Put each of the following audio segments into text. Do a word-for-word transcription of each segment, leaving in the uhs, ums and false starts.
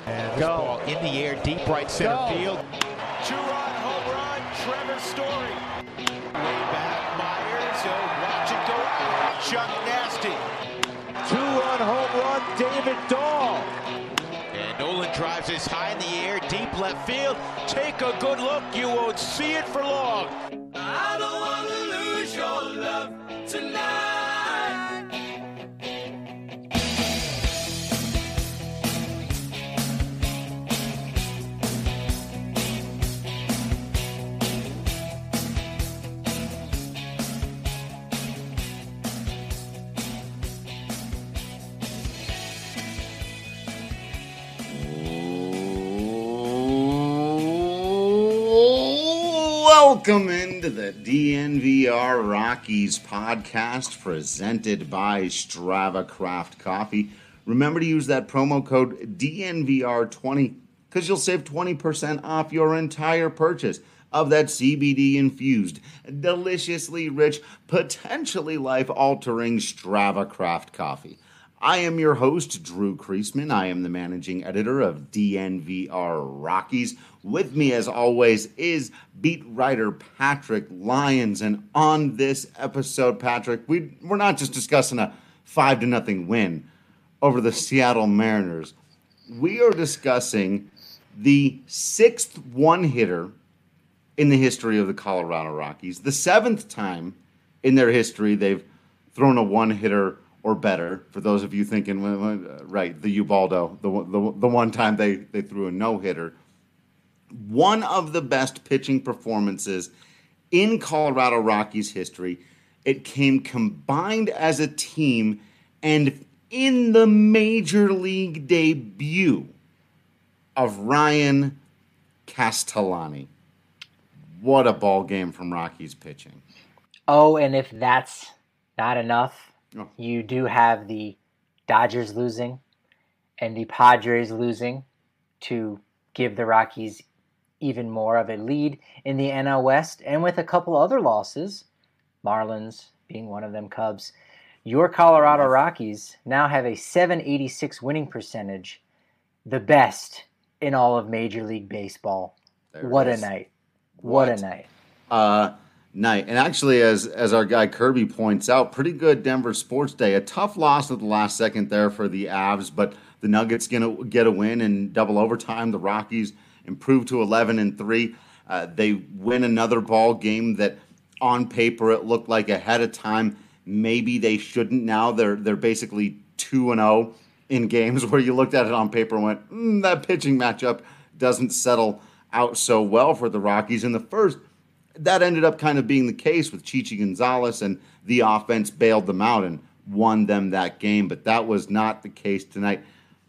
And this Go. ball in the air, deep right center Go. field. Two-run home run, Trevor Story. Way back, Myers. So watch it go out. Chuck Nasty. Two-run home run, David Dahl. And Nolan drives this high in the air, deep left field. Take a good look. You won't see it for long. I don't want to lose your love tonight. Welcome into the D N V R Rockies podcast presented by Strava Craft Coffee. Remember to use that promo code D N V R twenty because you'll save twenty percent off your entire purchase of that C B D-infused, deliciously rich, potentially life-altering Strava Craft Coffee. I am your host, Drew Kreisman. I am the managing editor of D N V R Rockies. With me, as always, is beat writer Patrick Lyons. And on this episode, Patrick, we, we're not just discussing a five to nothing win over the Seattle Mariners. We are discussing the sixth one-hitter in the history of the Colorado Rockies, the seventh time in their history they've thrown a one-hitter or better. For those of you thinking, right, the Ubaldo, the, the, the one time they, they threw a no-hitter. One of the best pitching performances in Colorado Rockies history. It came combined as a team, and in the major league debut of Ryan Castellani. What a ball game from Rockies pitching. Oh, and if that's not enough, oh. you do have the Dodgers losing and the Padres losing to give the Rockies even more of a lead in the N L West, and with a couple other losses, Marlins being one of them, Cubs, your Colorado Rockies now have a seven eighty-six winning percentage, the best in all of Major League Baseball. There what a night. What, what a night. Uh, night. And actually, as as our guy Kirby points out, pretty good Denver sports day. A tough loss at the last second there for the Avs, but the Nuggets going to get a win in double overtime. The Rockies improved to eleven and three. Uh, they win another ball game that on paper it looked like ahead of time maybe they shouldn't. Now they're they're basically two and oh in games where you looked at it on paper and went, mm, that pitching matchup doesn't settle out so well for the Rockies. In the first, that ended up kind of being the case with Chichi Gonzalez, and the offense bailed them out and won them that game, but that was not the case tonight.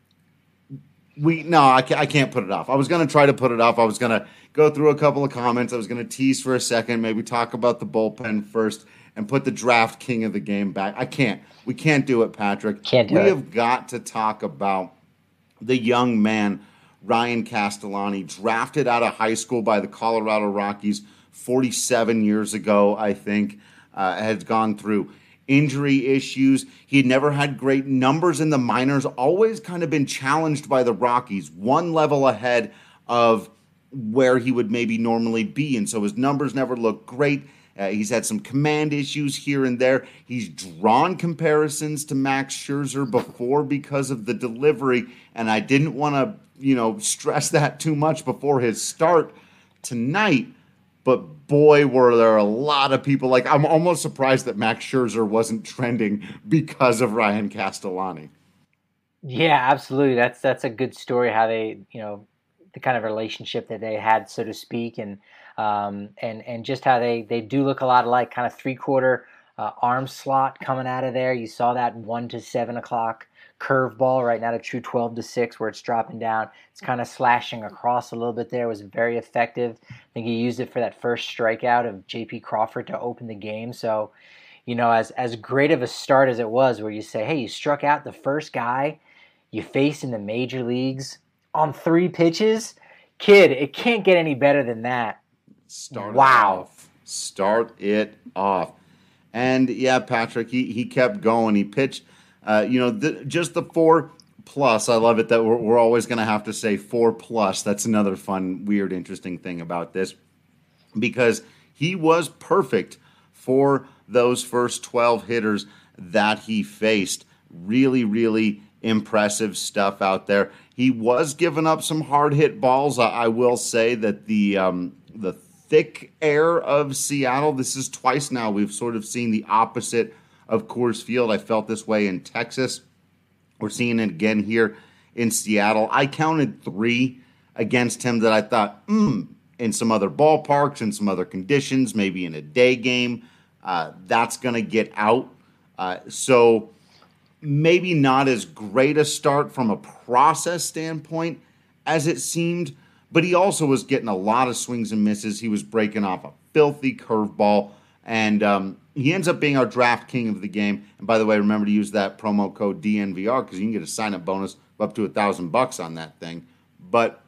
We no, I can't, I can't put it off. I was going to try to put it off. I was going to go through a couple of comments. I was going to tease for a second, maybe talk about the bullpen first, and put the draft king of the game back. I can't. We can't do it, Patrick. Can't do we it. have got to talk about the young man, Ryan Castellani, drafted out of high school by the Colorado Rockies forty-seven years ago, I think, uh, has gone through injury issues. He had never had great numbers in the minors, always kind of been challenged by the Rockies, one level ahead of where he would maybe normally be. And so his numbers never looked great. Uh, he's had some command issues here and there. He's drawn comparisons to Max Scherzer before because of the delivery. And I didn't want to, you know, stress that too much before his start tonight. But boy, were there a lot of people. Like, I'm almost surprised that Max Scherzer wasn't trending because of Ryan Castellani. Yeah, absolutely. That's that's a good story. How they, you know, the kind of relationship that they had, so to speak, and um, and and just how they they do look a lot alike. Kind of three quarter uh, arm slot coming out of there. You saw that one to seven o'clock curveball right now to true twelve to six where it's dropping down. It's kind of slashing across a little bit there. It was very effective. I think he used it for that first strikeout of J P Crawford to open the game. So, you know, as as great of a start as it was, where you say, hey, you struck out the first guy you face in the major leagues on three pitches, kid, it can't get any better than that. Start wow. it off. Start it off. And yeah, Patrick, he, he kept going. He pitched, uh, you know, the, just the four plus. I love it that we're, we're always going to have to say four plus. That's another fun, weird, interesting thing about this, because he was perfect for those first twelve hitters that he faced. Really, really impressive stuff out there. He was giving up some hard hit balls. I, I will say that the um, the thick air of Seattle, this is twice now we've sort of seen the opposite of Coors Field. I felt this way in Texas. We're seeing it again here in Seattle. I counted three against him that I thought, hmm, in some other ballparks, in some other conditions, maybe in a day game, uh, that's going to get out. Uh, so maybe not as great a start from a process standpoint as it seemed, but he also was getting a lot of swings and misses. He was breaking off a filthy curveball, and um, he ends up being our draft king of the game. And by the way, remember to use that promo code D N V R because you can get a sign-up bonus of up to a thousand bucks on that thing. But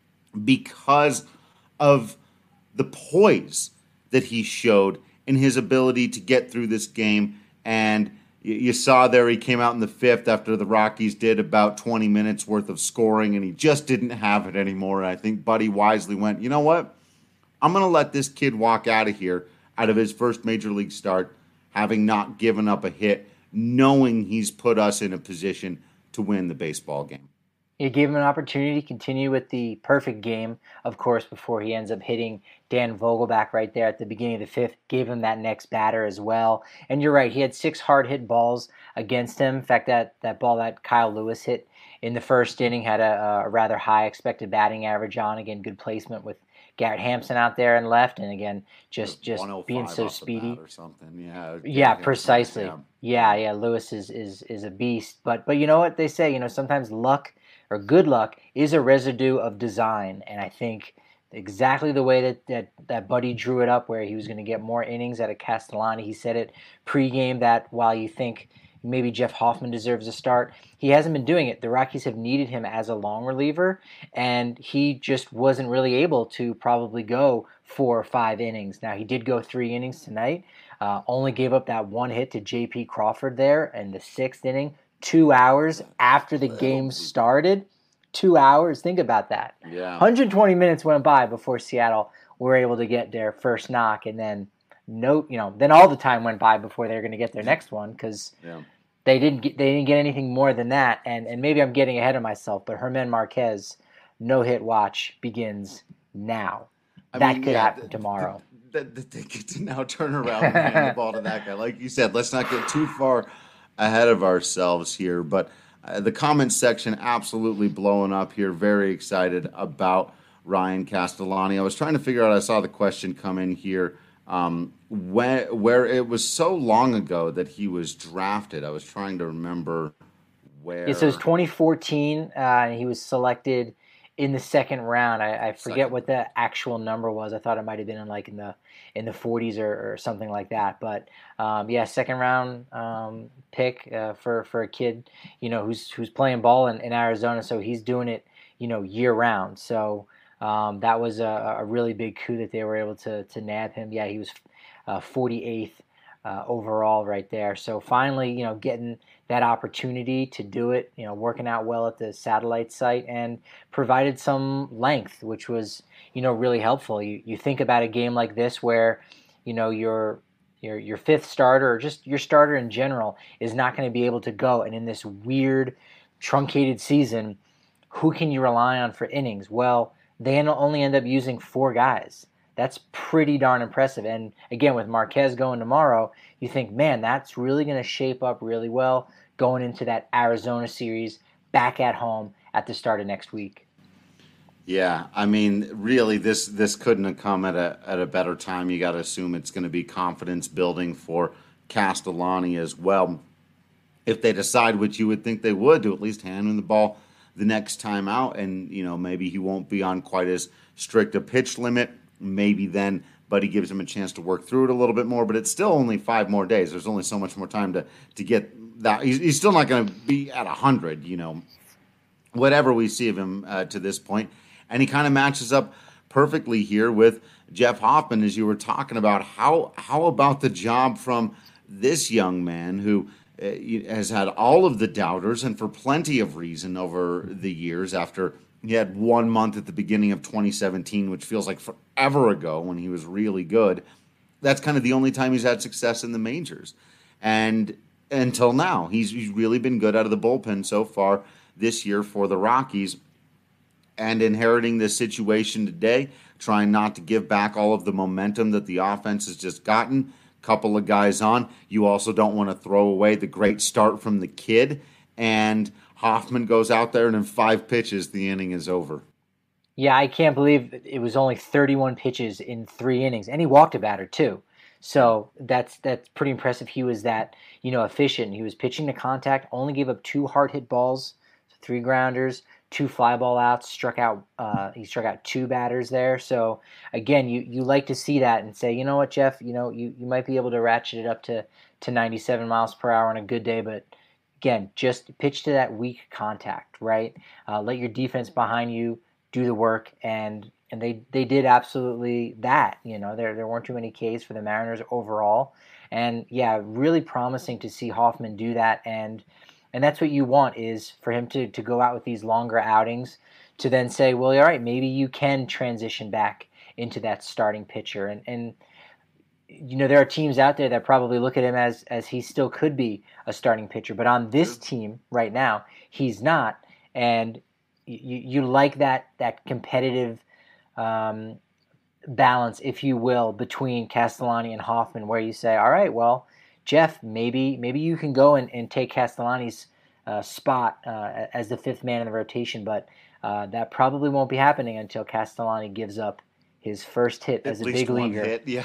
because of the poise that he showed in his ability to get through this game, and you saw there he came out in the fifth after the Rockies did about twenty minutes worth of scoring, and he just didn't have it anymore. And I think Buddy wisely went, you know what? I'm going to let this kid walk out of here, out of his first major league start, having not given up a hit, knowing he's put us in a position to win the baseball game. It gave him an opportunity to continue with the perfect game, of course, before he ends up hitting Dan Vogelbach right there at the beginning of the fifth, gave him that next batter as well. And you're right, he had six hard hit balls against him. In fact, that, that ball that Kyle Lewis hit in the first inning had a, a rather high expected batting average on. Again, good placement with Garrett Hampson out there and left, and again, just just being so speedy or something. Yeah, yeah, precisely. Yeah. yeah, yeah. Lewis is, is is a beast, but but you know what they say? You know, sometimes luck or good luck is a residue of design, and I think exactly the way that that, that Buddy drew it up, where he was going to get more innings out of Castellani. He said it pregame that while you think maybe Jeff Hoffman deserves a start, he hasn't been doing it. The Rockies have needed him as a long reliever, and he just wasn't really able to probably go four or five innings. Now, he did go three innings tonight, uh, only gave up that one hit to J P Crawford there in the sixth inning, two hours after the game started. Two hours, think about that. Yeah. one hundred twenty minutes went by before Seattle were able to get their first knock, and then no, you know, then all the time went by before they were going to get their next one because yeah. they didn't get, they didn't get anything more than that. And and maybe I'm getting ahead of myself, but Germán Marquez no hit watch begins now. I that mean, could yeah, happen th- tomorrow. That th- they get to now turn around and hand the ball to that guy. Like you said, let's not get too far ahead of ourselves here. But uh, the comments section absolutely blowing up here. Very excited about Ryan Castellani. I was trying to figure out. I saw the question come in here. Um, where, where it was so long ago that he was drafted. I was trying to remember where. It says twenty fourteen, uh, and he was selected in the second round. I, I forget second. what the actual number was. I thought it might have been in like in the in the forties or, or something like that. But um, yeah, second round um, pick uh, for for a kid, you know, who's who's playing ball in, in Arizona. So he's doing it, you know, year round. So. Um, that was a, a really big coup that they were able to to nab him. Yeah, he was uh, forty-eighth uh, overall right there. So finally, you know, getting that opportunity to do it, you know, working out well at the satellite site and provided some length, which was, you know, really helpful. You you think about a game like this where, you know, your your your fifth starter or just your starter in general is not going to be able to go, and in this weird truncated season, who can you rely on for innings? Well, they only end up using four guys. That's pretty darn impressive. And again, with Marquez going tomorrow, you think, man, that's really going to shape up really well going into that Arizona series back at home at the start of next week. Yeah, I mean, really, this this couldn't have come at a at a better time. You got to assume it's going to be confidence building for Castellani as well. If they decide, which you would think they would, to at least hand him the ball the next time out, and you know maybe he won't be on quite as strict a pitch limit. Maybe then Buddy gives him a chance to work through it a little bit more. But it's still only five more days. There's only so much more time to to get that. He's, he's still not going to be at a hundred. You know, whatever we see of him uh, to this point, and he kind of matches up perfectly here with Jeff Hoffman, as you were talking about. How how about the job from this young man who has had all of the doubters, and for plenty of reason over the years. After he had one month at the beginning of twenty seventeen, which feels like forever ago when he was really good, that's kind of the only time he's had success in the majors. And until now, he's, he's really been good out of the bullpen so far this year for the Rockies. And inheriting this situation today, trying not to give back all of the momentum that the offense has just gotten. Couple of guys on. You also don't want to throw away the great start from the kid. And Hoffman goes out there, and in five pitches, the inning is over. Yeah, I can't believe it was only thirty-one pitches in three innings, and he walked a batter too. So that's that's pretty impressive. He was that you know efficient. He was pitching to contact, only gave up two hard hit balls, three grounders, two fly ball outs, struck out. Uh, he struck out two batters there. So again, you, you like to see that and say, you know what, Jeff, you know you, you might be able to ratchet it up to, to ninety-seven miles per hour on a good day, but again, just pitch to that weak contact, right? Uh, let your defense behind you do the work, and and they, they did absolutely that. You know, there there weren't too many Ks for the Mariners overall, and yeah, really promising to see Hoffman do that. And And that's what you want, is for him to, to go out with these longer outings to then say, well, all right, maybe you can transition back into that starting pitcher. And, and you know, there are teams out there that probably look at him as, as he still could be a starting pitcher. But on this team right now, he's not. And you, you like that, that competitive um, balance, if you will, between Castellani and Hoffman, where you say, all right, well, Jeff, maybe maybe you can go and, and take Castellani's uh, spot uh, as the fifth man in the rotation, but uh, that probably won't be happening until Castellani gives up his first hit At as a least big one leaguer. Hit, yeah.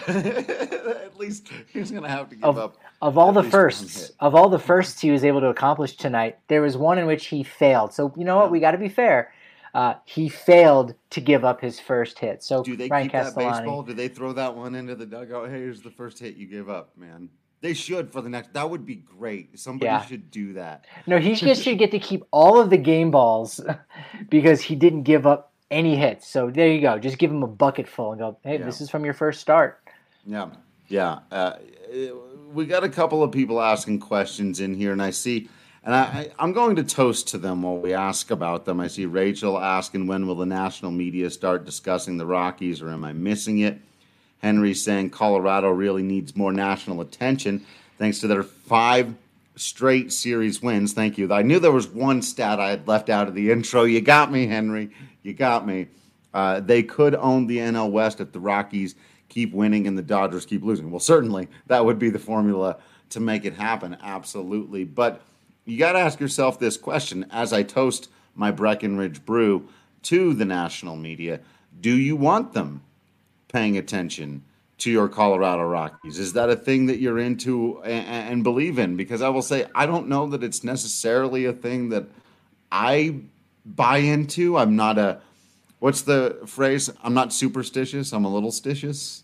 At least he's going to have to give of, up. Of all at the least one firsts, hit. of all the firsts he was able to accomplish tonight, there was one in which he failed. So you know what? Yeah. We got to be fair. Uh, he failed to give up his first hit. So Do they Ryan keep that Castellani, baseball? Do they throw that one into the dugout? Hey, here's the first hit you gave up, man. They should for the next. That would be great. Somebody Yeah. should do that. No, he just should get to keep all of the game balls because he didn't give up any hits. So there you go. Just give him a bucket full and go, hey, Yeah. this is from your first start. Yeah, yeah. Uh, we got a couple of people asking questions in here, and I see, and I, I, I'm going to toast to them while we ask about them. I see Rachel asking, when will the national media start discussing the Rockies, or am I missing it? Henry saying Colorado really needs more national attention thanks to their five straight series wins. Thank you. I knew there was one stat I had left out of the intro. You got me, Henry. You got me. Uh, they could own the N L West if the Rockies keep winning and the Dodgers keep losing. Well, certainly that would be the formula to make it happen. Absolutely. But you got to ask yourself this question as I toast my Breckenridge Brew to the national media. Do you want them paying attention to your Colorado Rockies? Is that a thing that you're into and, and believe in? Because I will say, I don't know that it's necessarily a thing that I buy into. I'm not a, what's the phrase? I'm not superstitious. I'm a little stitious.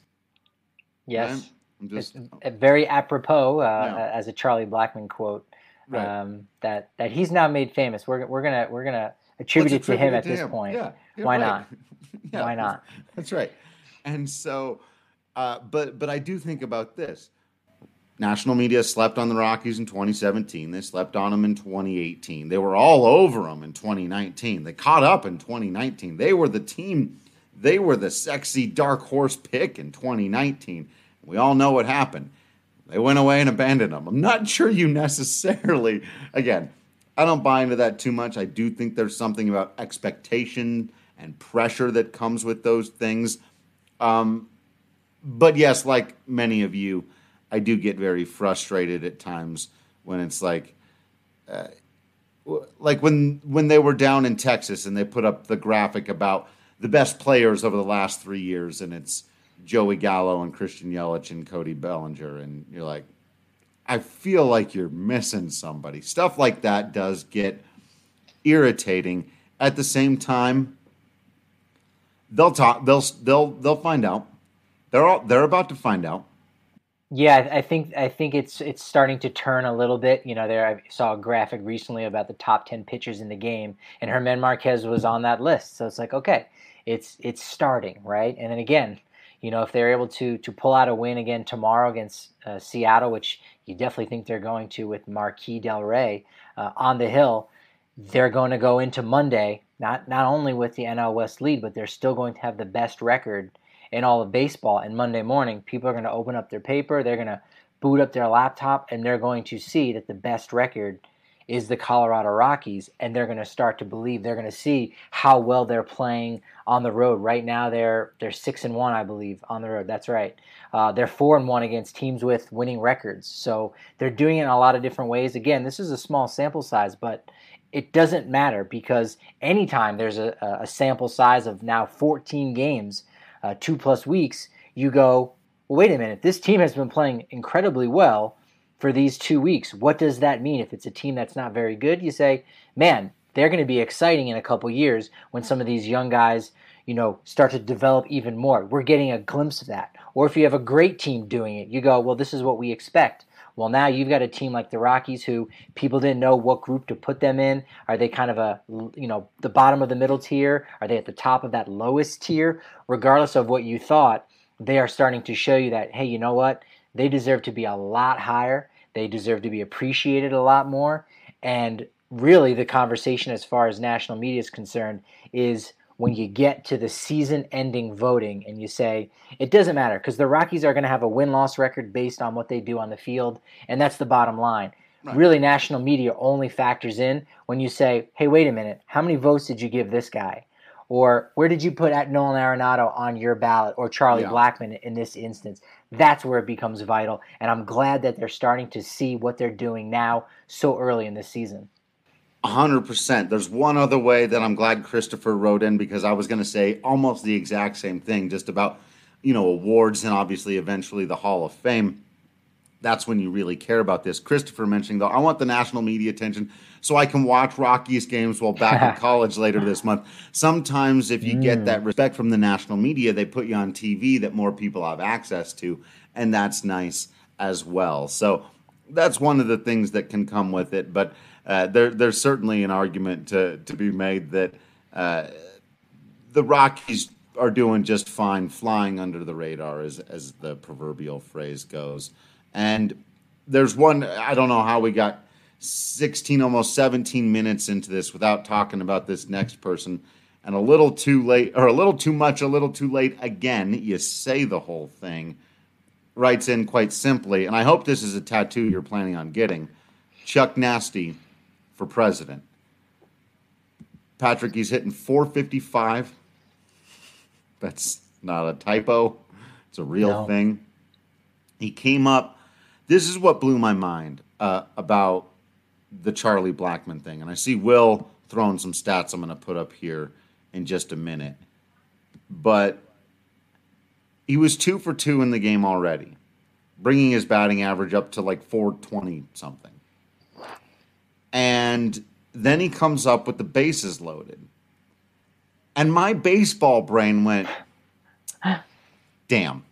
Yes. Right? I'm just, It's very apropos, uh, Yeah. as a Charlie Blackmon quote, Right. um, that, that he's now made famous. We're, we're going to, we're going to attribute let's it to him attribute at to this him. point. Yeah, you're Why right. not? Yeah, Why not? That's right. And so, uh, but but I do think about this. National media slept on the Rockies in twenty seventeen. They slept on them in twenty eighteen. They were all over them in twenty nineteen. They caught up in twenty nineteen. They were the team. They were the sexy dark horse pick in twenty nineteen. We all know what happened. They went away and abandoned them. I'm not sure you necessarily, again, I don't buy into that too much. I do think there's something about expectation and pressure that comes with those things. Um, but yes, like many of you, I do get very frustrated at times when it's like, uh, like when when they were down in Texas and they put up the graphic about the best players over the last three years, and it's Joey Gallo and Christian Yelich and Cody Bellinger, and you're like, I feel like you're missing somebody. Stuff like that does get irritating. At the same time, they'll talk. They'll they'll they'll find out. They're all they're about to find out. Yeah, I I think I think it's it's starting to turn a little bit. You know, there I saw a graphic recently about the top ten pitchers in the game, and Germán Marquez was on that list. So it's like, okay, it's it's starting, right? And then again, you know, if they're able to to pull out a win again tomorrow against uh, Seattle, which you definitely think they're going to with Marquis Del Rey uh, on the hill. They're going to go into Monday, not not only with the N L West lead, but they're still going to have the best record in all of baseball. And Monday morning, people are going to open up their paper, they're going to boot up their laptop, and they're going to see that the best record is the Colorado Rockies, and they're going to start to believe. They're going to see how well they're playing on the road. Right now, they're they're six and one, I believe, on the road. That's right. Uh, they're four and one against teams with winning records. So they're doing it in a lot of different ways. Again, this is a small sample size, but it doesn't matter, because anytime there's a, a sample size of now fourteen games, uh, two plus weeks, you go, well, wait a minute, this team has been playing incredibly well for these two weeks. What does that mean? If it's a team that's not very good, you say, man, they're going to be exciting in a couple years when some of these young guys, you know, start to develop even more. We're getting a glimpse of that. Or if you have a great team doing it, you go, well, this is what we expect. Well, now you've got a team like the Rockies who people didn't know what group to put them in. Are they kind of a, you know, the bottom of the middle tier? Are they at the top of that lowest tier? Regardless of what you thought, they are starting to show you that, hey, you know what? They deserve to be a lot higher. They deserve to be appreciated a lot more. And really the conversation as far as national media is concerned is when you get to the season-ending voting and you say, it doesn't matter, because the Rockies are going to have a win-loss record based on what they do on the field, and that's the bottom line. Right. Really, national media only factors in when you say, hey, wait a minute, how many votes did you give this guy? Or where did you put at Nolan Arenado on your ballot, or Charlie yeah. Blackmon in this instance? That's where it becomes vital, and I'm glad that they're starting to see what they're doing now so early in the season. one hundred percent. There's one other way that I'm glad Christopher wrote in, because I was going to say almost the exact same thing, just about, you know, awards and obviously eventually the Hall of Fame. That's when you really care about this. Christopher mentioning, though, I want the national media attention so I can watch Rockies games while back in college later this month. Sometimes if you mm. get that respect from the national media, they put you on T V that more people have access to, and that's nice as well. So that's one of the things that can come with it. But uh, there, there's certainly an argument to, to be made that uh, the Rockies are doing just fine, flying under the radar, as as the proverbial phrase goes. And there's one, I don't know how we got sixteen, almost seventeen minutes into this without talking about this next person. And a little too late, or a little too much, a little too late again, you say the whole thing, writes in quite simply, and I hope this is a tattoo you're planning on getting, Chuck Nasty for president. Patrick, he's hitting four fifty-five. That's not a typo. It's a real no. thing. He came up. This is what blew my mind uh, about the Charlie Blackmon thing. And I see Will throwing some stats I'm going to put up here in just a minute. But he was two for two in the game already, bringing his batting average up to like four twenty something. And then he comes up with the bases loaded. And my baseball brain went, damn.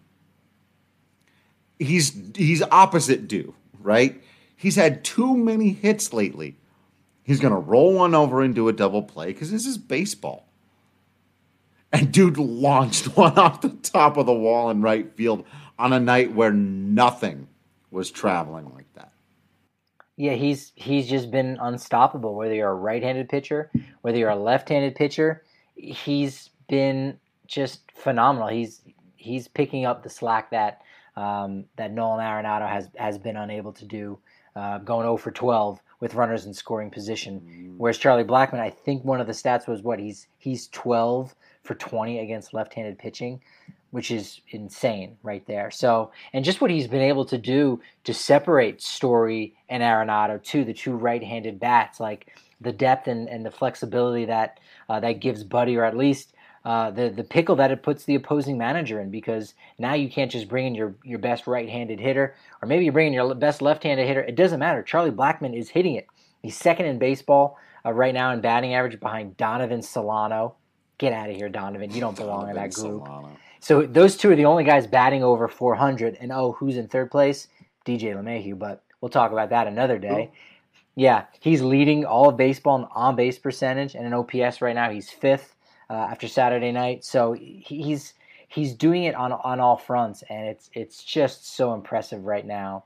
He's he's opposite due, right? He's had too many hits lately. He's going to roll one over and do a double play because this is baseball. And dude launched one off the top of the wall in right field on a night where nothing was traveling like that. Yeah, he's he's just been unstoppable. Whether you're a right-handed pitcher, whether you're a left-handed pitcher, he's been just phenomenal. He's he's picking up the slack that um, that Nolan Arenado has has been unable to do, uh, going oh for twelve with runners in scoring position. Mm. Whereas Charlie Blackmon, I think one of the stats was what he's he's twelve for twenty against left-handed pitching, which is insane right there. So, and just what he's been able to do to separate Story and Arenado, too, the two right-handed bats, like the depth and, and the flexibility that uh, that gives Buddy, or at least uh, the the pickle that it puts the opposing manager in, because now you can't just bring in your, your best right-handed hitter, or maybe you bring in your best left-handed hitter. It doesn't matter. Charlie Blackmon is hitting it. He's second in baseball uh, right now in batting average behind Donovan Solano. Get out of here, Donovan. You don't belong Donovan in that group. Solano. So those two are the only guys batting over four hundred. And, oh, who's in third place? D J LeMahieu, but we'll talk about that another day. Ooh. Yeah, he's leading all of baseball in on-base percentage, and in O P S right now he's fifth uh, after Saturday night. So he's he's doing it on on all fronts, and it's it's just so impressive right now.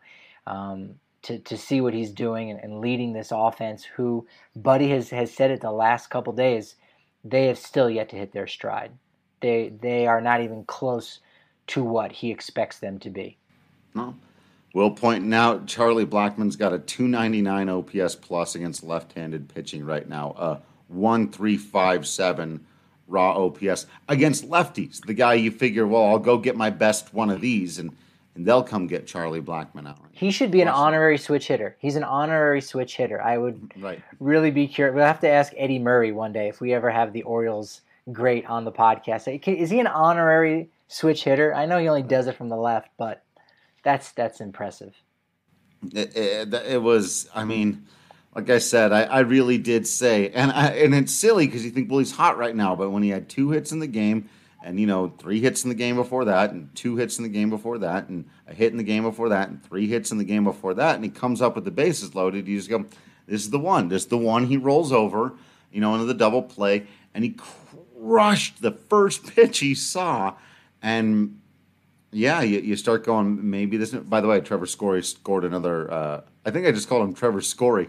um, to to see what he's doing and, and leading this offense. Who Buddy has, has said it the last couple days, they have still yet to hit their stride. They they are not even close to what he expects them to be. No. Will pointing out Charlie Blackmon's got a two ninety-nine O P S plus against left-handed pitching right now. A one three five seven raw O P S against lefties. The guy you figure, well, I'll go get my best one of these, and, and they'll come get Charlie Blackmon out. He should be an honorary switch hitter. He's an honorary switch hitter. I would right. really be curious. We'll have to ask Eddie Murray one day if we ever have the Orioles great on the podcast. Is he an honorary switch hitter? I know he only does it from the left, but that's that's impressive. It, it, it was, I mean, like I said, I, I really did say, and I, and it's silly because you think, well, he's hot right now, but when he had two hits in the game, and, you know, three hits in the game before that, and two hits in the game before that, and a hit in the game before that, and three hits in the game before that, and he comes up with the bases loaded, you just go, this is the one. This is the one he rolls over, you know, into the double play, and he crushed the first pitch he saw, and yeah, you, you start going, maybe this. By the way, Trevor Story scored another. Uh, I think I just called him Trevor Story.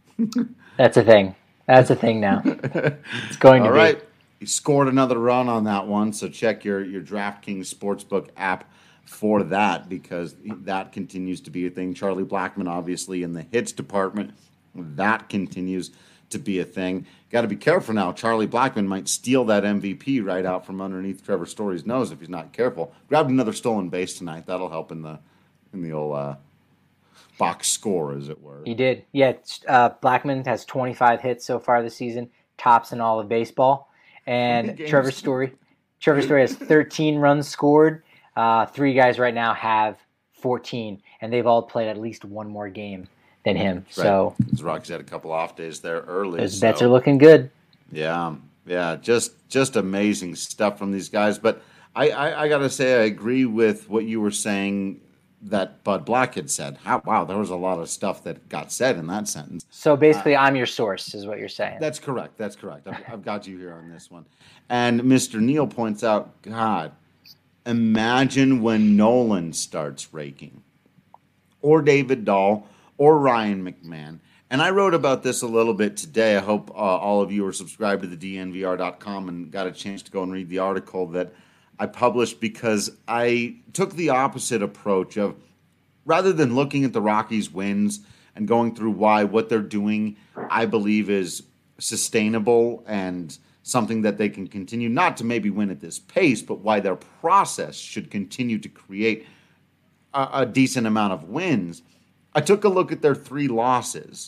That's a thing. That's a thing now. It's going to All be. All right. He scored another run on that one, so check your, your DraftKings Sportsbook app for that because that continues to be a thing. Charlie Blackmon, obviously, in the hits department, that continues to be a thing. Got to be careful now. Charlie Blackmon might steal that M V P right out from underneath Trevor Story's nose if he's not careful. Grabbed another stolen base tonight. That'll help in the in the old uh, box score, as it were. He did. Yeah, uh, Blackmon has twenty-five hits so far this season, tops in all of baseball. And Trevor Story, Trevor Story has thirteen runs scored. Uh, three guys right now have fourteen, and they've all played at least one more game than him. Right. So the Rockies had a couple off days there early. Those so. bets are looking good. Yeah, yeah, just just amazing stuff from these guys. But I, I, I got to say, I agree with what you were saying that Bud Black had said. How, wow, there was a lot of stuff that got said in that sentence. So basically, uh, I'm your source, is what you're saying. That's correct. That's correct. I've, I've got you here on this one. And Mister Neal points out, God, imagine when Nolan starts raking, or David Dahl, or Ryan McMahon. And I wrote about this a little bit today. I hope uh, all of you are subscribed to the D N V R dot com and got a chance to go and read the article that I published because I took the opposite approach of rather than looking at the Rockies' wins and going through why what they're doing I believe is sustainable and something that they can continue, not to maybe win at this pace, but why their process should continue to create a, a decent amount of wins. I took a look at their three losses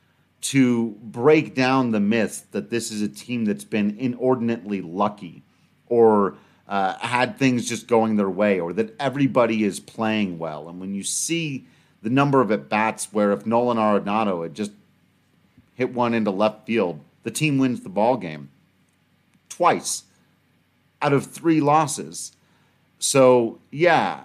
to break down the myth that this is a team that's been inordinately lucky or uh, had things just going their way or that everybody is playing well. And when you see the number of at-bats where if Nolan Arenado had just hit one into left field, the team wins the ball game twice out of three losses. So, yeah,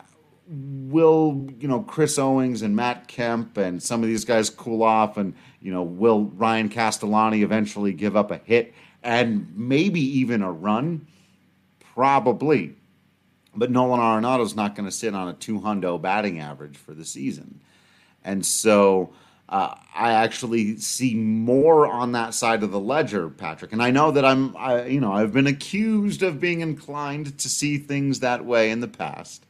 will, you know, Chris Owings and Matt Kemp and some of these guys cool off and, you know, will Ryan Castellani eventually give up a hit and maybe even a run? Probably. But Nolan Arenado's not going to sit on a two hundo batting average for the season. And so uh, I actually see more on that side of the ledger, Patrick. And I know that I'm, I, you know, I've been accused of being inclined to see things that way in the past.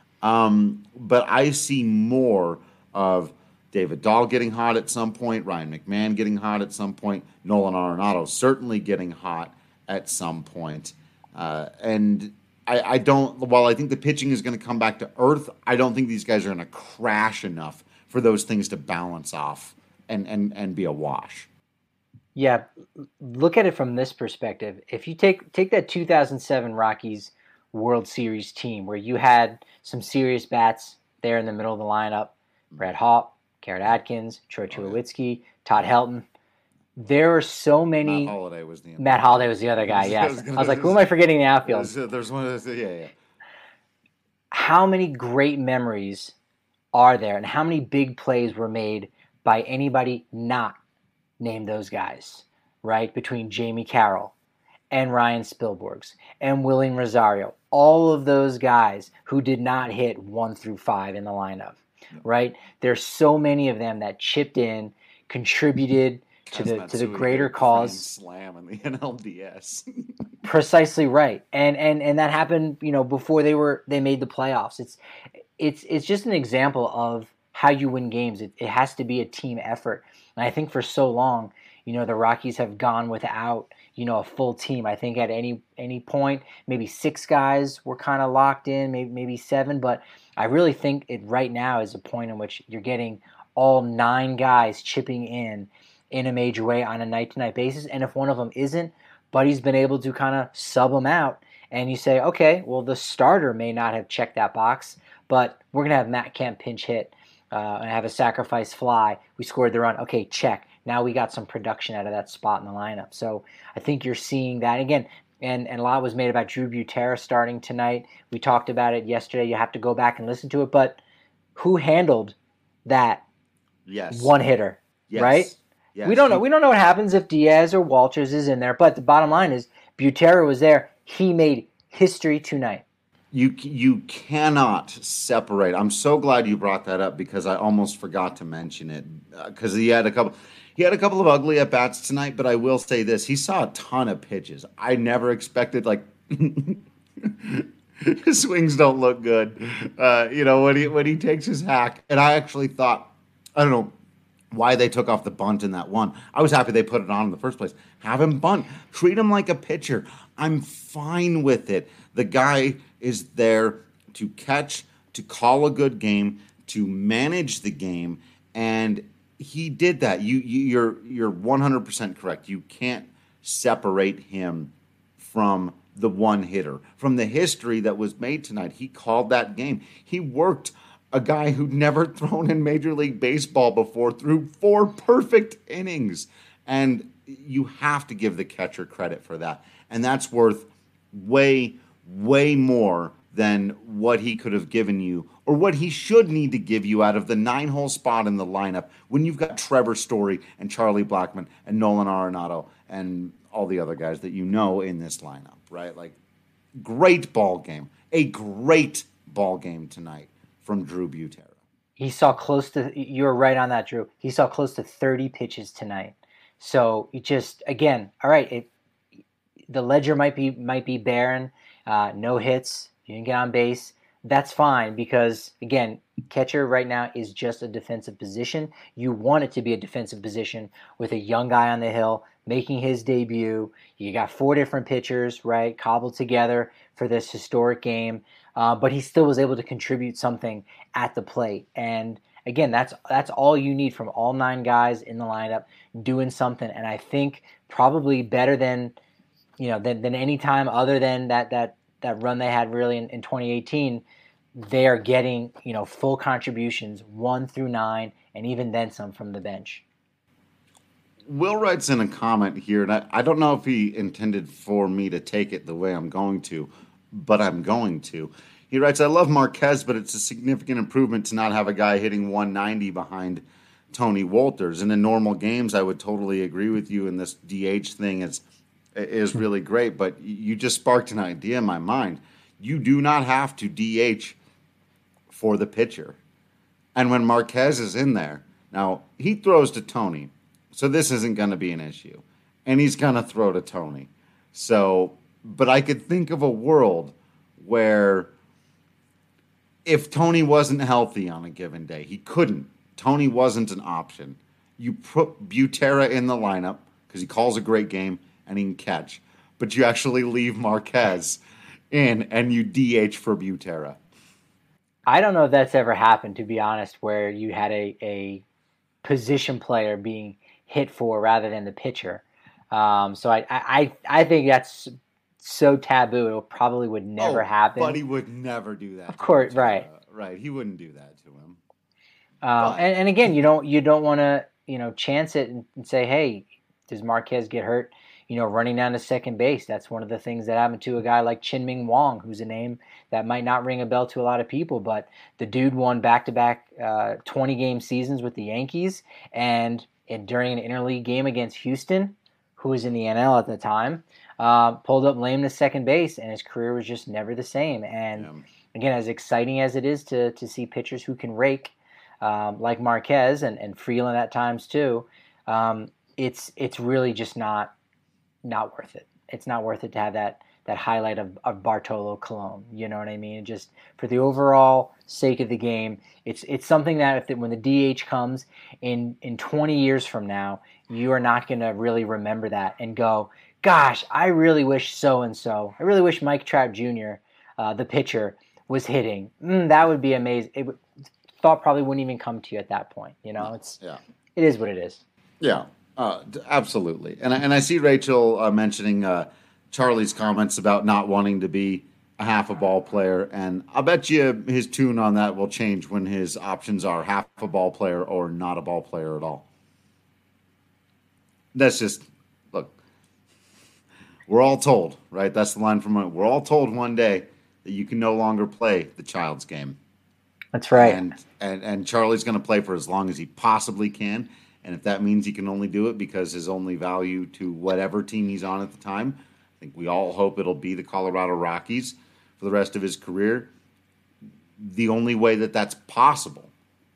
Um, but I see more of David Dahl getting hot at some point, Ryan McMahon getting hot at some point, Nolan Arenado certainly getting hot at some point. Uh, and I, I don't, while I think the pitching is going to come back to earth, I don't think these guys are going to crash enough for those things to balance off and, and, and be a wash. Yeah, look at it from this perspective. If you take take that two thousand seven Rockies World Series team where you had some serious bats there in the middle of the lineup, Brett Hawpe, Garrett Atkins, Troy Tulowitzki, Todd Helton. There are so many. Matt Holliday was the Matt Holliday was the other guy. Yes, I was, gonna, I was like, who am I forgetting in the outfield? There's, there's one. Of those, yeah, yeah. How many great memories are there, and how many big plays were made by anybody not named those guys? Right between Jamie Carroll and Ryan Spilborghs and Willing Rosario, all of those guys who did not hit one through five in the lineup. right? There's so many of them that chipped in, contributed to the to the greater cause. Slam in the N L D S. Precisely right, and and and that happened, you know, before they were they made the playoffs. It's it's it's just an example of how you win games. It, it has to be a team effort, and I think for so long, you know, the Rockies have gone without, you know, a full team. I think at any any point, maybe six guys were kind of locked in, maybe maybe seven, but I really think it right now is a point in which you're getting all nine guys chipping in in a major way on a night-to-night basis. And if one of them isn't, Buddy's been able to kind of sub them out. And you say, okay, well, the starter may not have checked that box, but we're going to have Matt Kemp pinch hit uh, and have a sacrifice fly. We scored the run. Okay, check. Now we got some production out of that spot in the lineup. So I think you're seeing that. Again, and, and a lot was made about Drew Butera starting tonight. We talked about it yesterday. You have to go back and listen to it. But who handled that yes. one hitter, yes. right? Yes. We don't know. We don't know what happens if Diaz or Walters is in there. But the bottom line is Butera was there. He made history tonight. You you cannot separate. I'm so glad you brought that up because I almost forgot to mention it because uh, he had a couple. He had a couple of ugly at bats tonight, but I will say this: he saw a ton of pitches. I never expected like his swings don't look good. Uh, you know when he when he takes his hack, and I actually thought I don't know why they took off the bunt in that one. I was happy they put it on in the first place. Have him bunt. Treat him like a pitcher. I'm fine with it. The guy is there to catch, to call a good game, to manage the game, and he did that. You, you you're you're one hundred percent correct. You can't separate him from the one hitter. From the history that was made tonight, he called that game. He worked a guy who'd never thrown in Major League Baseball before through four perfect innings. And you have to give the catcher credit for that. And that's worth way, way more than what he could have given you or what he should need to give you out of the nine-hole spot in the lineup when you've got Trevor Story and Charlie Blackmon and Nolan Arenado and all the other guys that you know in this lineup, right? Like, great ball game. A great ball game tonight from Drew Butera. He saw close to, you were right on that, Drew. He saw close to thirty pitches tonight. So you just, again, all right, it, the ledger might be might be barren, uh, no hits, you didn't get on base. That's fine because, again, catcher right now is just a defensive position. You want it to be a defensive position with a young guy on the hill making his debut. You got four different pitchers, right, cobbled together for this historic game. Uh, but he still was able to contribute something at the plate. And again, that's that's all you need from all nine guys in the lineup doing something. And I think probably better than, you know, than, than any time other than that that that run they had really in, in twenty eighteen. They are getting, you know, full contributions one through nine, and even then some from the bench. Will writes in a comment here, and I, I don't know if he intended for me to take it the way I'm going to, but I'm going to. He writes, I love Marquez, but it's a significant improvement to not have a guy hitting one ninety behind Tony Wolters. And in normal games, I would totally agree with you, and this D H thing is is really great, but you just sparked an idea in my mind. You do not have to D H for the pitcher. And when Marquez is in there, now he throws to Tony, so this isn't going to be an issue. And he's going to throw to Tony. So, but I could think of a world where if Tony wasn't healthy on a given day, he couldn't. Tony wasn't an option. You put Butera in the lineup because he calls a great game and he can catch. But you actually leave Marquez in and you D H for Butera. I don't know if that's ever happened, to be honest, where you had a, a position player being hit for rather than the pitcher. Um, so I, I I think that's so taboo. It probably would never oh, happen. But he would never do that. Of course, right, right. He wouldn't do that to him. Um, and, and again, you don't you don't want to you know chance it and, and say, hey, does Marquez get hurt? You know, running down to second base. That's one of the things that happened to a guy like Chin-Ming Wong, who's a name that might not ring a bell to a lot of people, but the dude won back-to-back uh, twenty-game seasons with the Yankees, and, and during an interleague game against Houston, who was in the N L at the time, uh, pulled up lame to second base, and his career was just never the same. And yeah. Again, as exciting as it is to to see pitchers who can rake, um, like Marquez and, and Freeland at times too, um, it's it's really just not not worth it. It's not worth it to have that that highlight of, of Bartolo Colon. You know what I mean? Just for the overall sake of the game, it's it's something that if the, when the D H comes in in twenty years from now, you are not going to really remember that and go, gosh, I really wish so and so. I really wish Mike Trout Junior, uh, the pitcher, was hitting. Mm, that would be amazing. It would, thought probably wouldn't even come to you at that point. You know, it's yeah. It is what it is. Yeah, uh, absolutely. And I, and I see Rachel uh, mentioning uh, Charlie's comments about not wanting to be a half a ball player, and I'll bet you his tune on that will change when his options are half a ball player or not a ball player at all. That's just, look, we're all told, right? That's the line from it. We're all told one day that you can no longer play the child's game. That's right. And and, and Charlie's going to play for as long as he possibly can. And if that means he can only do it because his only value to whatever team he's on at the time, I think we all hope it'll be the Colorado Rockies for the rest of his career. The only way that that's possible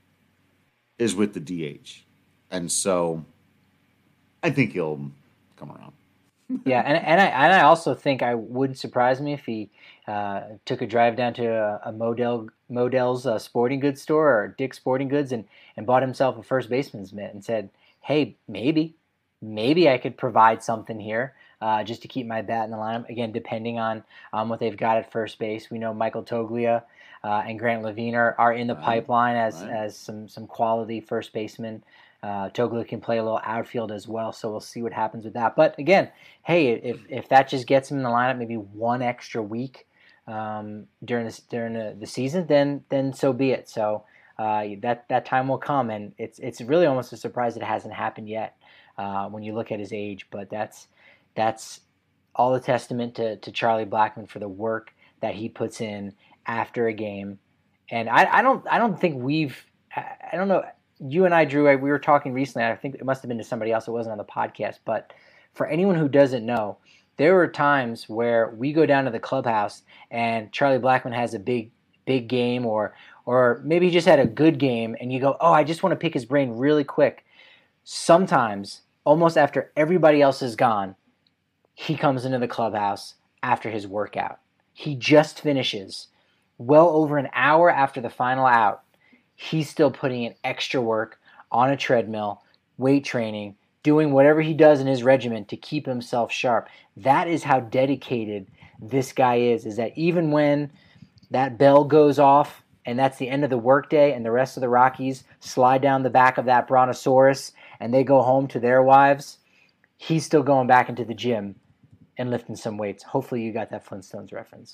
is with the D H. And so I think he'll come around. Yeah, and and I and I also think I wouldn't surprise me if he uh, took a drive down to a, a Modell Modell's uh, sporting goods store or Dick's Sporting Goods and, and bought himself a first baseman's mitt and said, "Hey, maybe, maybe I could provide something here uh, just to keep my bat in the lineup." Again, depending on um, what they've got at first base, we know Michael Toglia uh, and Grant Levine are, are in the right. pipeline as right. as some some quality first basemen. Uh, Toglia can play a little outfield as well, so we'll see what happens with that. But again, hey, if if that just gets him in the lineup, maybe one extra week um, during this during the, the season, then then so be it. So uh, that that time will come, and it's it's really almost a surprise it hasn't happened yet uh, when you look at his age. But that's that's all a testament to to Charlie Blackmon for the work that he puts in after a game. And I, I don't I don't think we've I don't know. You and I, Drew, we were talking recently, I think it must have been to somebody else, it wasn't on the podcast, but for anyone who doesn't know, there were times where we go down to the clubhouse and Charlie Blackmon has a big, big game, or or maybe he just had a good game, and you go, oh, I just want to pick his brain really quick. Sometimes, almost after everybody else is gone, he comes into the clubhouse after his workout. He just finishes well over an hour after the final out. He's still putting in extra work on a treadmill, weight training, doing whatever he does in his regimen to keep himself sharp. That is how dedicated this guy is, is that even when that bell goes off and that's the end of the workday and the rest of the Rockies slide down the back of that Brontosaurus and they go home to their wives, he's still going back into the gym and lifting some weights. Hopefully you got that Flintstones reference.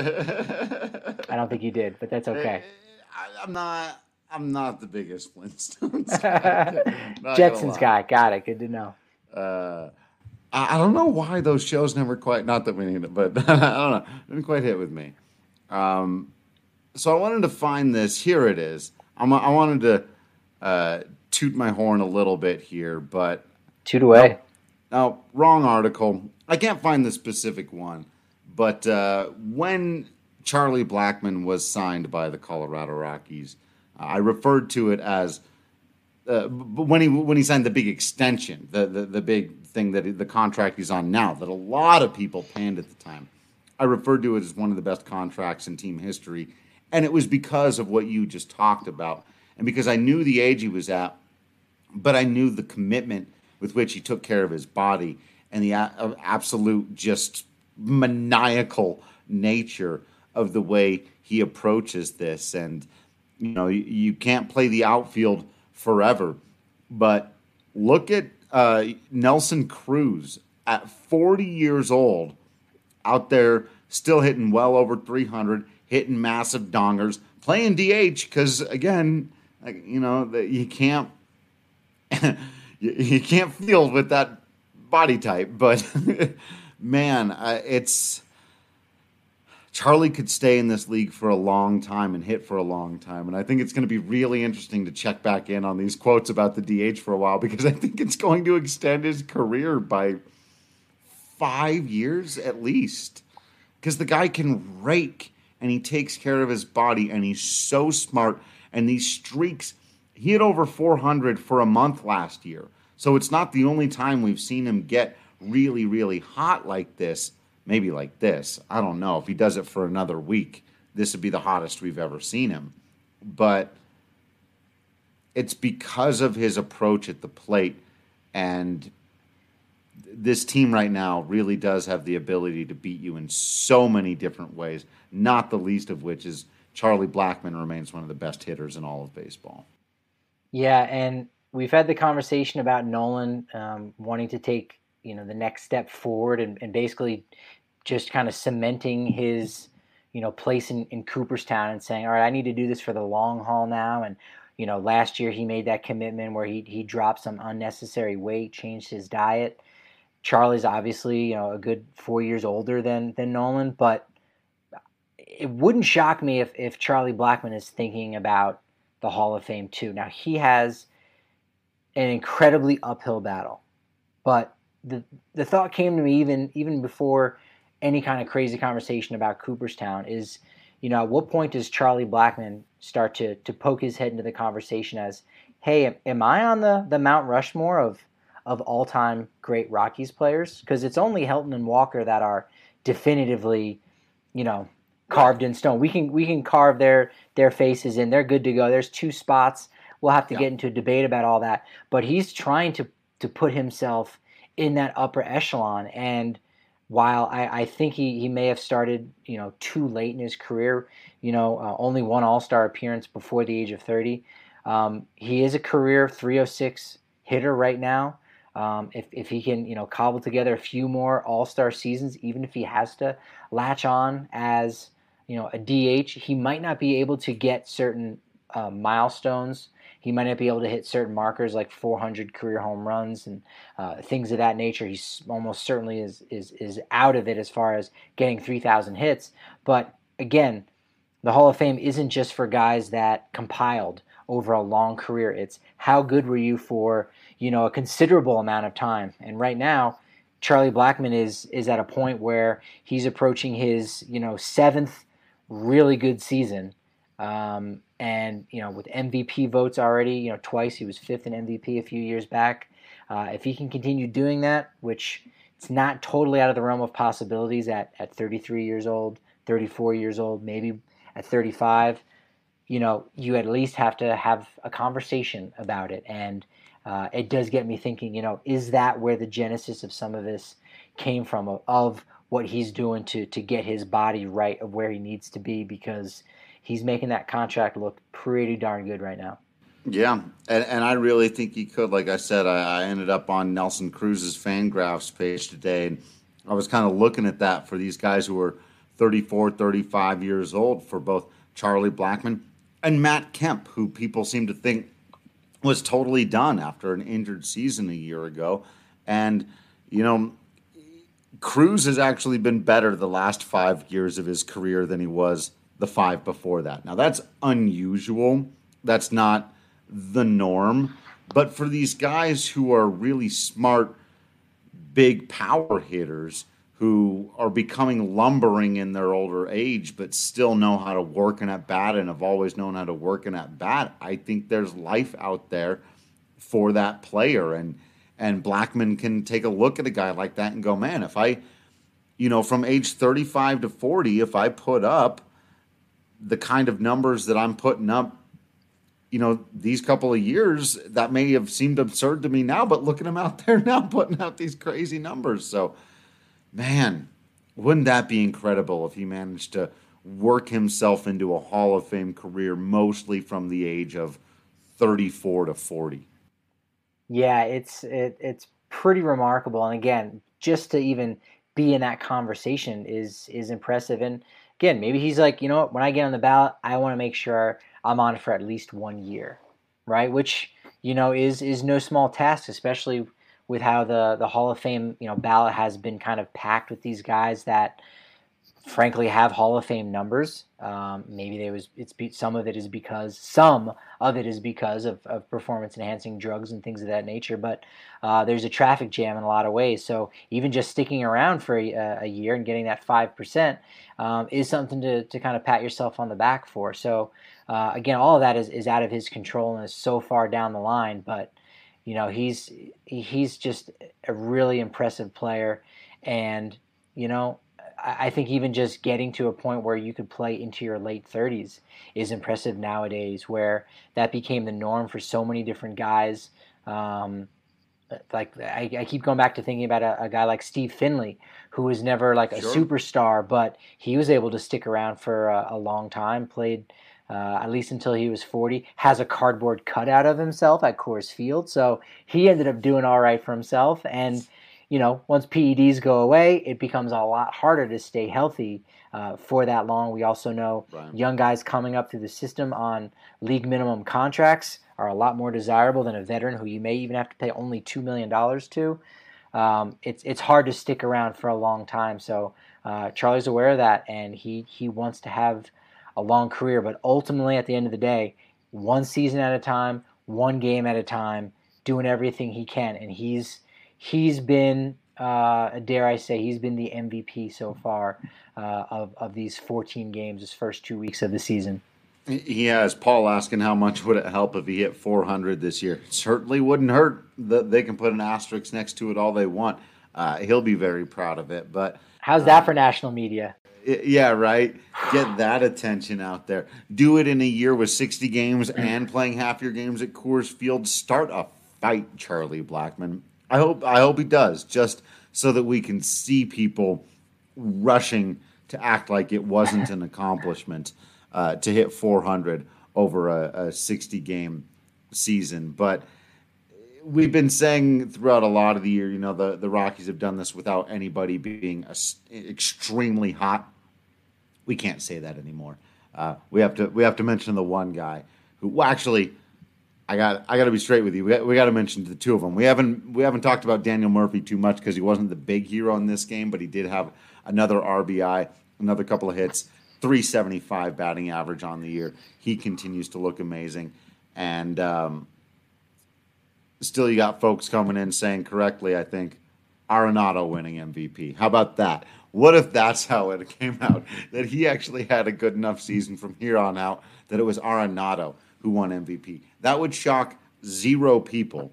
I don't think you did, but that's okay. I, I'm not... I'm not the biggest Flintstones guy. Jetsons guy. Got it. Good to know. Uh, I, I don't know why those shows never quite, not that we need it, but I don't know. Didn't quite hit with me. Um, so I wanted to find this. Here it is. I'm, I wanted to uh, toot my horn a little bit here, but. Toot away. No, no, wrong article. I can't find the specific one, but uh, when Charlie Blackmon was signed by the Colorado Rockies, I referred to it as uh, when he when he signed the big extension, the, the, the big thing that he, the contract he's on now, that a lot of people panned at the time. I referred to it as one of the best contracts in team history, and it was because of what you just talked about, and because I knew the age he was at, but I knew the commitment with which he took care of his body and the a- absolute just maniacal nature of the way he approaches this. And you know, you, you can't play the outfield forever, but look at uh, Nelson Cruz at forty years old, out there still hitting well over three hundred, hitting massive dongers, playing D H because again, like, you know, the, you can't you, you can't field with that body type. But man, uh, it's. Charlie could stay in this league for a long time and hit for a long time. And I think it's going to be really interesting to check back in on these quotes about the D H for a while, because I think it's going to extend his career by five years at least. Because the guy can rake and he takes care of his body and he's so smart. And these streaks He hit over four hundred for a month last year. So it's not the only time we've seen him get really, really hot like this. Maybe like this. I don't know. If he does it for another week, this would be the hottest we've ever seen him. But it's because of his approach at the plate. And this team right now really does have the ability to beat you in so many different ways, not the least of which is Charlie Blackmon remains one of the best hitters in all of baseball. Yeah, and we've had the conversation about Nolan um, wanting to take, you know, the next step forward and, and basically just kind of cementing his, you know, place in, in Cooperstown and saying, all right, I need to do this for the long haul now. And, you know, last year he made that commitment where he he dropped some unnecessary weight, changed his diet. Charlie's obviously, you know, a good four years older than than Nolan, but it wouldn't shock me if, if Charlie Blackmon is thinking about the Hall of Fame too. Now, he has an incredibly uphill battle, but the the thought came to me even even before any kind of crazy conversation about Cooperstown is, you know, at what point does Charlie Blackmon start to to poke his head into the conversation as, hey, am I on the, the Mount Rushmore of of all-time great Rockies players? Because it's only Helton and Walker that are definitively, you know, carved in stone. We can we can carve their their faces in. They're good to go. There's two spots. We'll have to yeah. get into a debate about all that. But he's trying to to put himself in that upper echelon. And while I, I think he, he may have started, you know, too late in his career, you know, uh, only one All-Star appearance before the age of thirty, um, he is a career three oh six hitter right now. Um, if, if he can, you know, cobble together a few more All-Star seasons, even if he has to latch on as, you know, a D H, he might not be able to get certain uh, milestones. He might not be able to hit certain markers like four hundred career home runs and uh, things of that nature. He's almost certainly is is is out of it as far as getting three thousand hits. But again, the Hall of Fame isn't just for guys that compiled over a long career. It's how good were you for, you know, a considerable amount of time. And right now, Charlie Blackmon is is at a point where he's approaching his, you know, seventh really good season. Um, and, you know, with M V P votes already, you know, twice, he was fifth in M V P a few years back. Uh, if he can continue doing that, which it's not totally out of the realm of possibilities at, at thirty-three years old, thirty-four years old, maybe at thirty-five, you know, you at least have to have a conversation about it. And uh, it does get me thinking, you know, is that where the genesis of some of this came from, of, of what he's doing to to get his body right of where he needs to be, because he's making that contract look pretty darn good right now. Yeah, and, and I really think he could. Like I said, I, I ended up on Nelson Cruz's Fangraphs page today, and I was kind of looking at that for these guys who are thirty-four, thirty-five years old, for both Charlie Blackmon and Matt Kemp, who people seem to think was totally done after an injured season a year ago. And, you know, Cruz has actually been better the last five years of his career than he was the five before that. Now, that's unusual. That's not the norm. But for these guys who are really smart, big power hitters who are becoming lumbering in their older age but still know how to work an at-bat and have always known how to work an at-bat, I think there's life out there for that player. And and Blackmon can take a look at a guy like that and go, man, if I, you know, from age thirty-five to forty, if I put up the kind of numbers that I'm putting up, you know, these couple of years, that may have seemed absurd to me now, but look at him out there now putting out these crazy numbers. So, man, wouldn't that be incredible if he managed to work himself into a Hall of Fame career, mostly from the age of thirty-four to forty? Yeah, it's it, it's pretty remarkable. And again, just to even be in that conversation is is impressive. And again, maybe he's like, you know what, when I get on the ballot, I want to make sure I'm on it for at least one year, right? Which, you know, is is no small task, especially with how the, the Hall of Fame, you know, ballot has been kind of packed with these guys that frankly have Hall of Fame numbers. Um, maybe there was it's be, some of it is because some of it is because of, of performance enhancing drugs and things of that nature. But uh, there's a traffic jam in a lot of ways. So even just sticking around for a, a year and getting that five percent um, is something to to kind of pat yourself on the back for. So uh, again, all of that is, is out of his control and is so far down the line. But you know, he's he's just a really impressive player, and you know, I think even just getting to a point where you could play into your late thirties is impressive nowadays, where that became the norm for so many different guys. Um, like I, I keep going back to thinking about a, a guy like Steve Finley, who was never like a Sure. superstar, but he was able to stick around for a, a long time, played uh, at least until he was forty, has a cardboard cutout of himself at Coors Field. So he ended up doing all right for himself. And you know, once P E Ds go away, it becomes a lot harder to stay healthy uh, for that long. We also know Right. young guys coming up through the system on league minimum contracts are a lot more desirable than a veteran who you may even have to pay only two million dollars to. Um, it's it's hard to stick around for a long time. So uh, Charlie's aware of that, and he, he wants to have a long career. But ultimately, at the end of the day, one season at a time, one game at a time, doing everything he can. And he's He's been, uh, dare I say, he's been the M V P so far uh, of, of these fourteen games, his first two weeks of the season. He has. Paul asking how much would it help if he hit four hundred this year. It certainly wouldn't hurt. They can put an asterisk next to it all they want. Uh, he'll be very proud of it. But how's that uh, for national media? Yeah, right. Get that attention out there. Do it in a year with sixty games and playing half your games at Coors Field. Start a fight, Charlie Blackmon. I hope I hope he does, just so that we can see people rushing to act like it wasn't an accomplishment uh, to hit four hundred over a sixty-game season. But we've been saying throughout a lot of the year, you know, the, the Rockies have done this without anybody being a, extremely hot. We can't say that anymore. Uh, we have to we have to mention the one guy who well, actually. I got I got to be straight with you. We got, we got to mention the two of them. We haven't we haven't talked about Daniel Murphy too much because he wasn't the big hero in this game, but he did have another R B I, another couple of hits, three seventy-five batting average on the year. He continues to look amazing, and um, still you got folks coming in saying correctly, I think, Arenado winning M V P. How about that? What if that's how it came out, that he actually had a good enough season from here on out that it was Arenado who won M V P? That would shock zero people.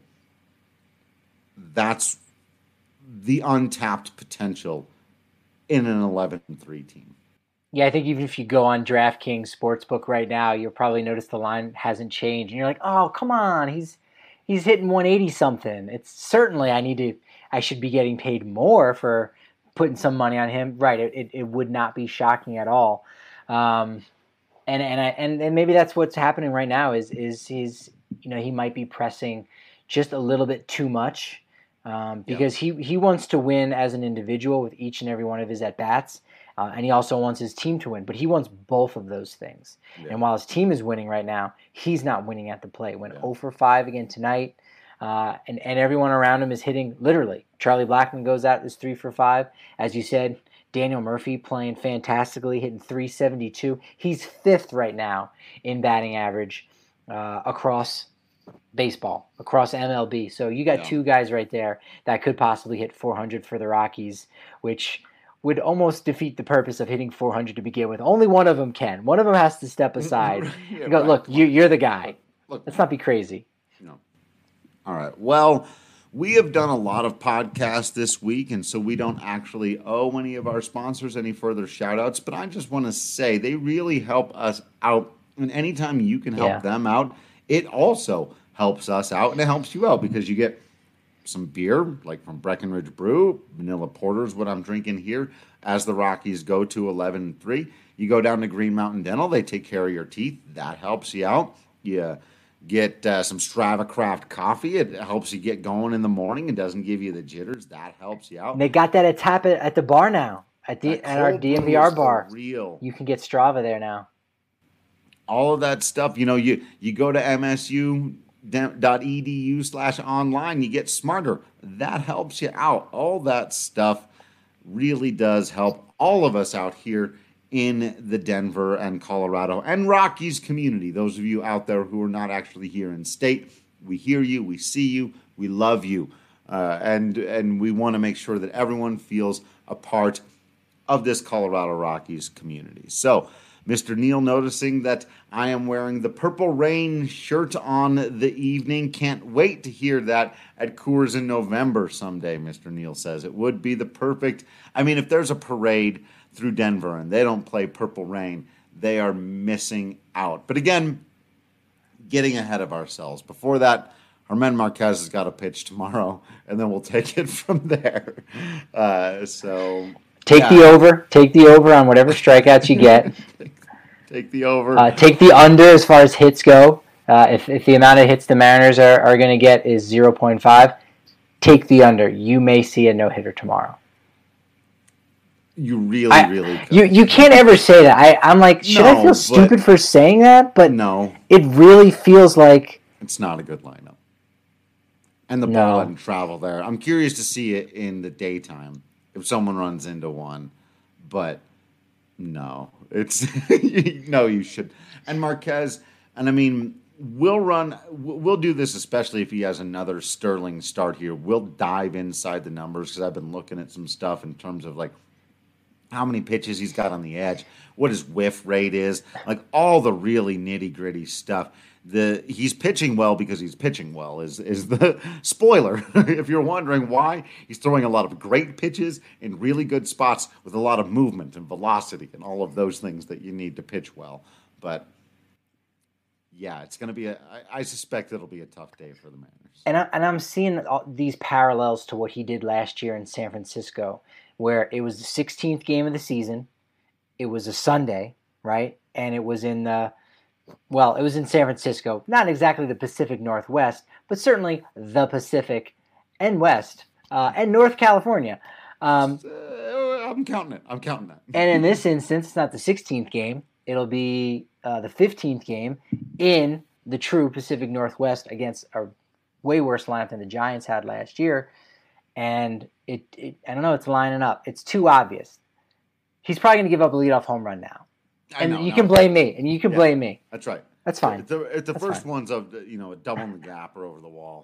That's the untapped potential in an eleven and three team. Yeah, I think even if you go on DraftKings Sportsbook right now, you'll probably notice the line hasn't changed. And you're like, oh, come on, he's he's hitting one eighty something. It's certainly I need to I should be getting paid more for putting some money on him. Right, it, it, it would not be shocking at all. Um, And and I and, and maybe that's what's happening right now is is he's you know he might be pressing just a little bit too much um, because yeah. he he wants to win as an individual with each and every one of his at bats, uh, and he also wants his team to win. But he wants both of those things. Yeah. And while his team is winning right now, he's not winning at the plate. Went yeah. zero for five again tonight, uh, and and everyone around him is hitting literally. Charlie Blackmon goes out is three for five, as you said. Daniel Murphy playing fantastically, hitting three seventy-two. He's fifth right now in batting average uh, across baseball, across M L B. So you got yeah. two guys right there that could possibly hit four hundred for the Rockies, which would almost defeat the purpose of hitting four hundred to begin with. Only one of them can. One of them has to step aside yeah, and go, right. look, you, you're the guy. Look, let's not be crazy. No. All right. Well, we have done a lot of podcasts this week, and so we don't actually owe any of our sponsors any further shout-outs, but I just want to say they really help us out, and anytime you can help yeah. them out, it also helps us out, and it helps you out because you get some beer, like from Breckenridge Brew. Vanilla Porter is what I'm drinking here as the Rockies go to eleven and three. You go down to Green Mountain Dental. They take care of your teeth. That helps you out. You get uh, some Strava Craft coffee. It helps you get going in the morning. It doesn't give you the jitters. That helps you out. And they got that at tap at, at the bar now, at the at our D N V R bar. Real. You can get Strava there now. All of that stuff. You know, you, you go to M S U dot E D U slash online. You get smarter. That helps you out. All that stuff really does help all of us out here in the Denver and Colorado and Rockies community. Those of you out there who are not actually here in state, we hear you, we see you, we love you, uh, and and we want to make sure that everyone feels a part of this Colorado Rockies community. So, Mister Neal noticing that I am wearing the Purple Rain shirt on the evening. Can't wait to hear that at Coors in November someday, Mister Neal says. It would be the perfect, I mean, if there's a parade through Denver and they don't play Purple Rain, they are missing out. But again, getting ahead of ourselves. Before that, Germán Marquez has got to pitch tomorrow, and then we'll take it from there. Uh, so... Take yeah. the over. Take the over on whatever strikeouts you get. take, take the over. Uh, take the under as far as hits go. Uh, if, if the amount of hits the Mariners are, are going to get is zero point five, take the under. You may see a no-hitter tomorrow. You really, I, really could. You you can't ever say that. I, I'm like, should no, I feel stupid for saying that? But no. It really feels like... It's not a good lineup. And the no. ball doesn't travel there. I'm curious to see it in the daytime. If someone runs into one, but no, it's no, you should. And Marquez, and I mean, we'll run, we'll do this, especially if he has another sterling start here. We'll dive inside the numbers because I've been looking at some stuff in terms of like how many pitches he's got on the edge, what his whiff rate is, like all the really nitty gritty stuff. The he's pitching well because he's pitching well is is the spoiler. If you're wondering why, he's throwing a lot of great pitches in really good spots with a lot of movement and velocity and all of those things that you need to pitch well. But yeah, it's going to be a. I, I suspect it'll be a tough day for the Mariners. And I, and I'm seeing all these parallels to what he did last year in San Francisco, where it was the sixteenth game of the season. It was a Sunday, right? And it was in the. Well, it was in San Francisco, not exactly the Pacific Northwest, but certainly the Pacific and West uh, and North California. Um, uh, I'm counting it. I'm counting that. And in this instance, it's not the sixteenth game. It'll be uh, the fifteenth game in the true Pacific Northwest against a way worse lineup than the Giants had last year. And it, it I don't know, it's lining up. It's too obvious. He's probably going to give up a leadoff home run now. And know, you no. can blame me, and you can yeah, blame me. That's right. That's fine. If the, if the that's first fine. one's of you know a double in the gap or over the wall,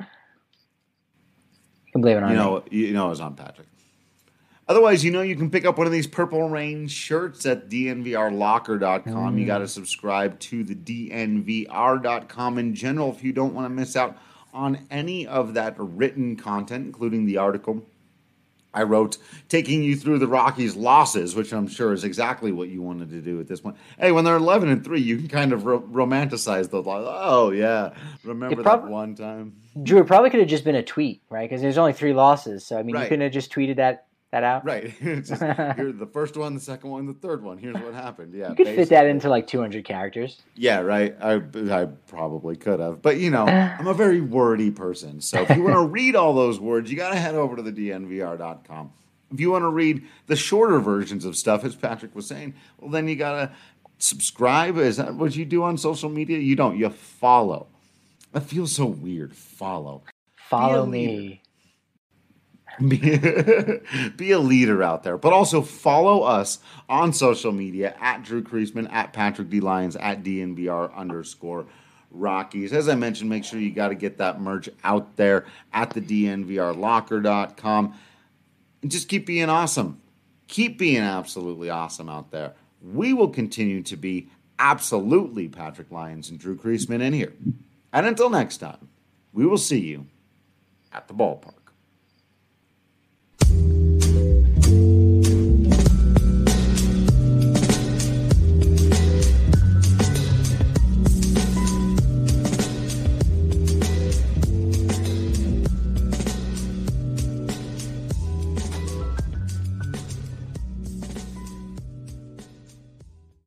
you can blame it on you know me. you know it's on Patrick. Otherwise, you know you can pick up one of these Purple Rain shirts at D N V R locker dot com. Mm. You got to subscribe to the D N V R dot com in general if you don't want to miss out on any of that written content, including the article I wrote taking you through the Rockies' losses, which I'm sure is exactly what you wanted to do at this point. Hey, when they're eleven and three, you can kind of ro- romanticize the like, oh yeah, remember prob- that one time. Drew, it probably could have just been a tweet, right? Because there's only three losses, so I mean, right. you couldn't have just tweeted that that out, right? It's just, here's the first one, the second one, the third one. Here's what happened. Yeah, you could basically fit that into like two hundred characters. Yeah, right. I I probably could have, but you know, I'm a very wordy person, so if you want to read all those words, you got to head over to the D N V R dot com. If you want to read the shorter versions of stuff, as Patrick was saying, well, then you got to subscribe. Is that what you do on social media? You don't. You follow. That feels so weird. Follow. Follow me. Be, be a leader out there. But also follow us on social media at Drew Creasman, at Patrick D. Lyons, at D N V R underscore Rockies. As I mentioned, make sure you got to get that merch out there at the D N V R locker dot com. And just keep being awesome. Keep being absolutely awesome out there. We will continue to be absolutely Patrick Lyons and Drew Creasman in here. And until next time, we will see you at the ballpark.